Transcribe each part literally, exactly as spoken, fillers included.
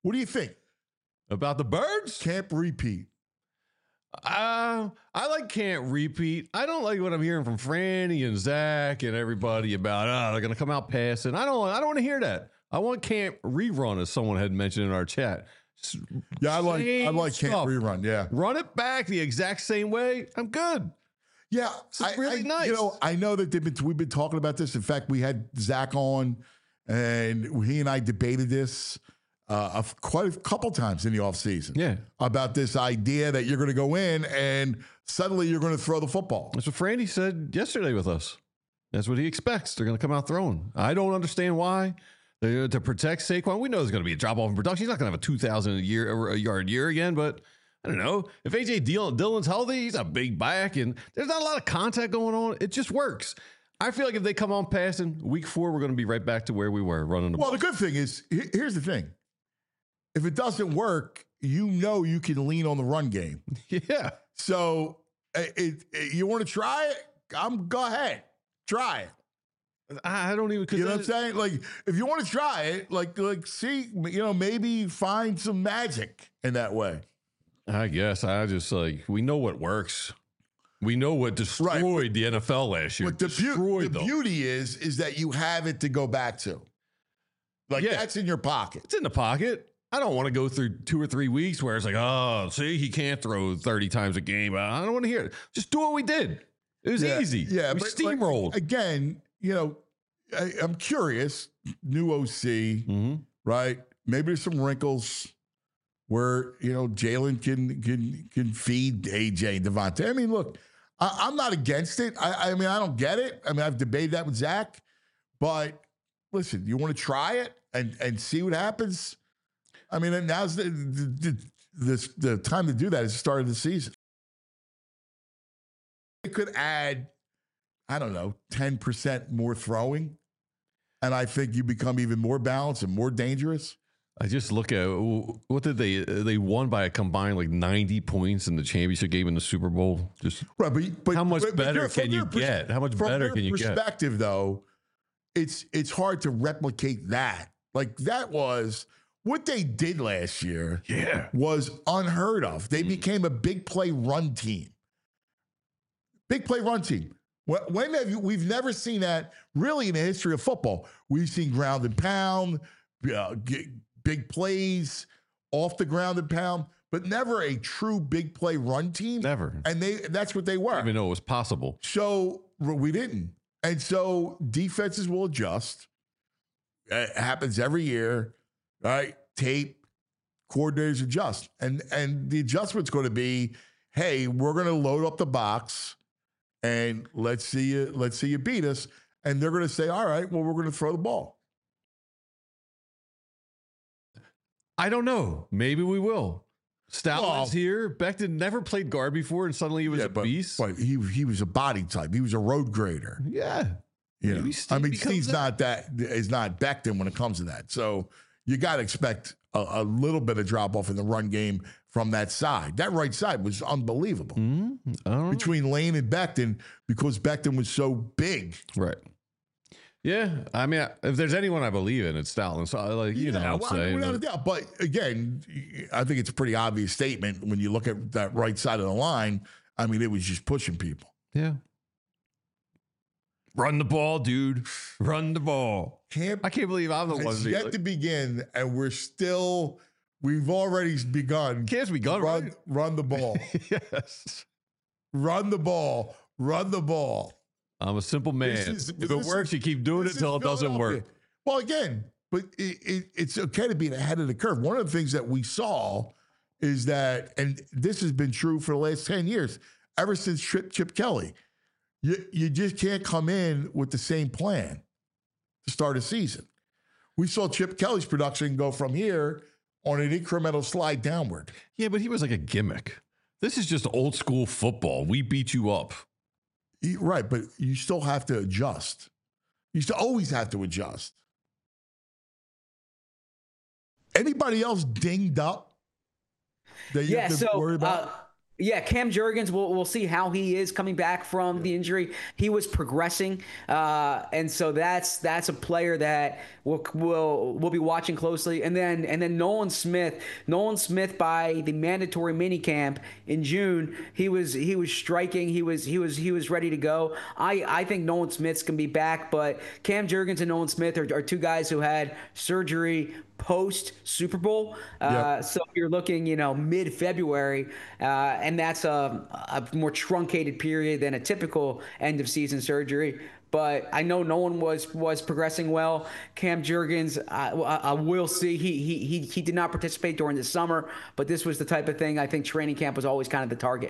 What do you think about the Birds? Can't repeat. Uh, I like can't repeat. I don't like what I'm hearing from Franny and Zach and everybody about, oh, they're going to come out passing. I don't, I don't want to hear that. I want can't rerun, as someone had mentioned in our chat. Yeah, I like, Same I like can't stuff. rerun. Yeah. Run it back the exact same way. I'm good. Yeah. It's really I, nice. You know, I know that they've been, we've been talking about this. In fact, we had Zach on and he and I debated this uh, a, quite a couple times in the offseason. Yeah. About this idea that you're going to go in and suddenly you're going to throw the football. That's what Franny said yesterday with us. That's what he expects. They're going to come out throwing. I don't understand why. They're, to protect Saquon, we know there's going to be a drop off in production. He's not going to have a two thousand year, a yard year again, but I don't know. If A J Dillon's healthy, he's a big back, and there's not a lot of contact going on. It just works. I feel like if they come on passing, week four, we're going to be right back to where we were running the well, ball. Well, the good thing is, here's the thing. If it doesn't work, you know you can lean on the run game. Yeah. So it, it, you want to try it? I'm go ahead. Try it. I don't even. You know what I'm saying? Like, if you want to try it, like, like, see, you know, maybe find some magic in that way. I guess I just like we know what works. We know what destroyed right. the N F L last year. But the, destroyed the beauty is, is that you have it to go back to. Like yeah. that's in your pocket. It's in the pocket. I don't want to go through two or three weeks where it's like, oh, see, he can't throw thirty times a game. I don't want to hear it. Just do what we did. It was yeah, easy. Yeah, we but steamrolled. Like, again, you know, I, I'm curious. New O C, mm-hmm. right? Maybe there's some wrinkles where you know Jalen can can can feed A J and Devontae. I mean, look, I, I'm not against it. I, I mean, I don't get it. I mean, I've debated that with Zach, but listen, you want to try it and and see what happens. I mean, now's the the, the the time to do that is the start of the season. It could add, I don't know, ten percent more throwing. And I think you become even more balanced and more dangerous. I just look at, what did they, they won by a combined like ninety points in the championship game in the Super Bowl. Just right, but, but how much but, better but can you pers- get? How much better can you get? From their perspective, though, it's it's hard to replicate that. Like that was, what they did last year yeah. was unheard of. They mm. became a big play run team. Big play run team. When have you, we've never seen that really in the history of football. We've seen ground and pound, uh, big plays off the ground and pound, but never a true big play run team. Never. And they that's what they were. I didn't even know it was possible. So we didn't. And so defenses will adjust. It happens every year, right? Tape, coordinators adjust. And, and the adjustment's going to be, hey, we're going to load up the box. And let's see you, let's see you beat us. And they're going to say, all right, well, we're going to throw the ball. I don't know. Maybe we will. Stoutland's well, here. Becton never played guard before, and suddenly he was yeah, a but, beast. But he he was a body type. He was a road grader. Yeah. You know, I mean, Steve's not that is not Becton when it comes to that. So you got to expect a, a little bit of drop off in the run game from that side. That right side was unbelievable mm-hmm. between Lane and Becton because Becton was so big. Right. Yeah. I mean, if there's anyone I believe in, it's Stoutland. So, like, you yeah, know what I'm well, saying. Without a doubt. But again, I think it's a pretty obvious statement when you look at that right side of the line. I mean, it was just pushing people. Yeah. Run the ball, dude. Run the ball. Camp I can't believe I'm the one. It's yet like, to begin, and we're still. We've already begun. Can't begun. Run, right? run the ball. Yes. Run the ball. Run the ball. I'm a simple man. Is, if it works, you keep doing it until it doesn't work. Well, again, but it, it, it's okay to be ahead of the curve. One of the things that we saw is that, and this has been true for the last ten years, ever since Chip, Chip Kelly. You, you just can't come in with the same plan to start a season. We saw Chip Kelly's production go from here on an incremental slide downward. Yeah, but he was like a gimmick. This is just old school football. We beat you up. Right, but you still have to adjust. You still always have to adjust. Anybody else dinged up that you yeah, have to so, worry about? Uh, Yeah, Cam Jurgens, we'll, we'll see how he is coming back from the injury. He was progressing, uh, and so that's that's a player that we'll, we'll we'll be watching closely. And then and then Nolan Smith, Nolan Smith by the mandatory minicamp in June, he was he was striking. He was he was he was ready to go. I, I think Nolan Smith's gonna be back, but Cam Jurgens and Nolan Smith are, are two guys who had surgery post Super Bowl. Uh, Yep. so you're looking, you know, mid February, uh, and that's a, a more truncated period than a typical end of season surgery. But I know no one was was progressing well. Cam Jurgens, I, I will see. He, he he he did not participate during the summer, but this was the type of thing I think training camp was always kind of the target.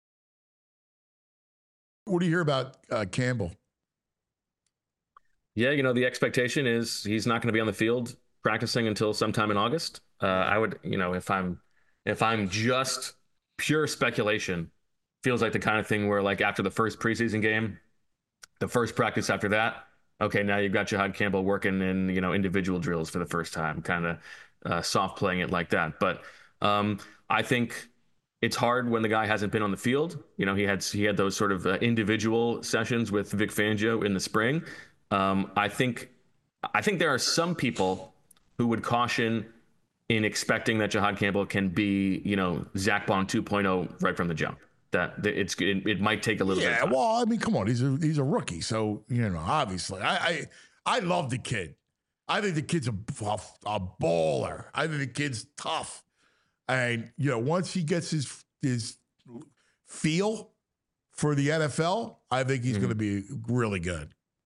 What do you hear about uh, Campbell? Yeah, you know, the expectation is he's not going to be on the field practicing until sometime in August. Uh, I would, you know, if I'm if I'm just pure speculation, feels like the kind of thing where like after the first preseason game, the first practice after that, okay, now you've got Jahad Campbell working in, you know, individual drills for the first time, kind of uh, soft playing it like that. But um, I think it's hard when the guy hasn't been on the field. You know, he had he had those sort of uh, individual sessions with Vic Fangio in the spring. Um, I think I think there are some people who would caution in expecting that Jahad Campbell can be, you know, Zach Bond two point oh right from the jump. That that it's it, it might take a little bit Yeah, of time. well, I mean, come on, he's a he's a rookie, so you know, obviously, I I, I love the kid. I think the kid's a, a a baller. I think the kid's tough, and you know, once he gets his his feel for the N F L, I think he's Mhm. going to be really good.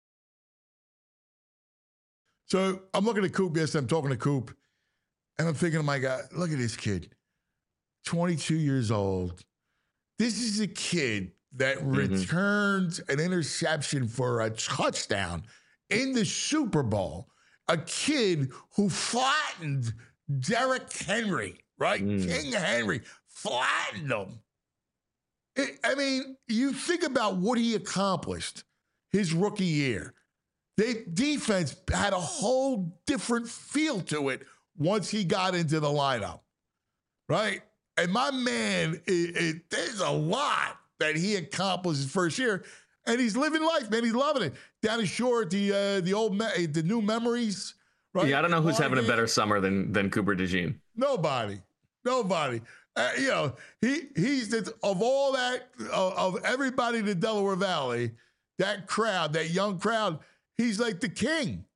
So I'm looking at Coop. Yes, I'm talking to Coop, and I'm thinking, my God, look at this kid, twenty-two years old. This is a kid that Mhm. returns an interception for a touchdown in the Super Bowl. A kid who flattened Derrick Henry, right? Mm. King Henry flattened him. It- I mean, you think about what he accomplished his rookie year. The defense had a whole different feel to it once he got into the lineup, right? And my man, it, it, there's a lot that he accomplished his first year, and he's living life, man. He's loving it. Down the shore at the uh, the old me- the new memories, right? Yeah, I don't know who's having a Margate. better summer than than Cooper DeJean. Nobody, nobody. Uh, you know, he he's the, of all that of, of everybody in the Delaware Valley, that crowd, that young crowd, he's like the king.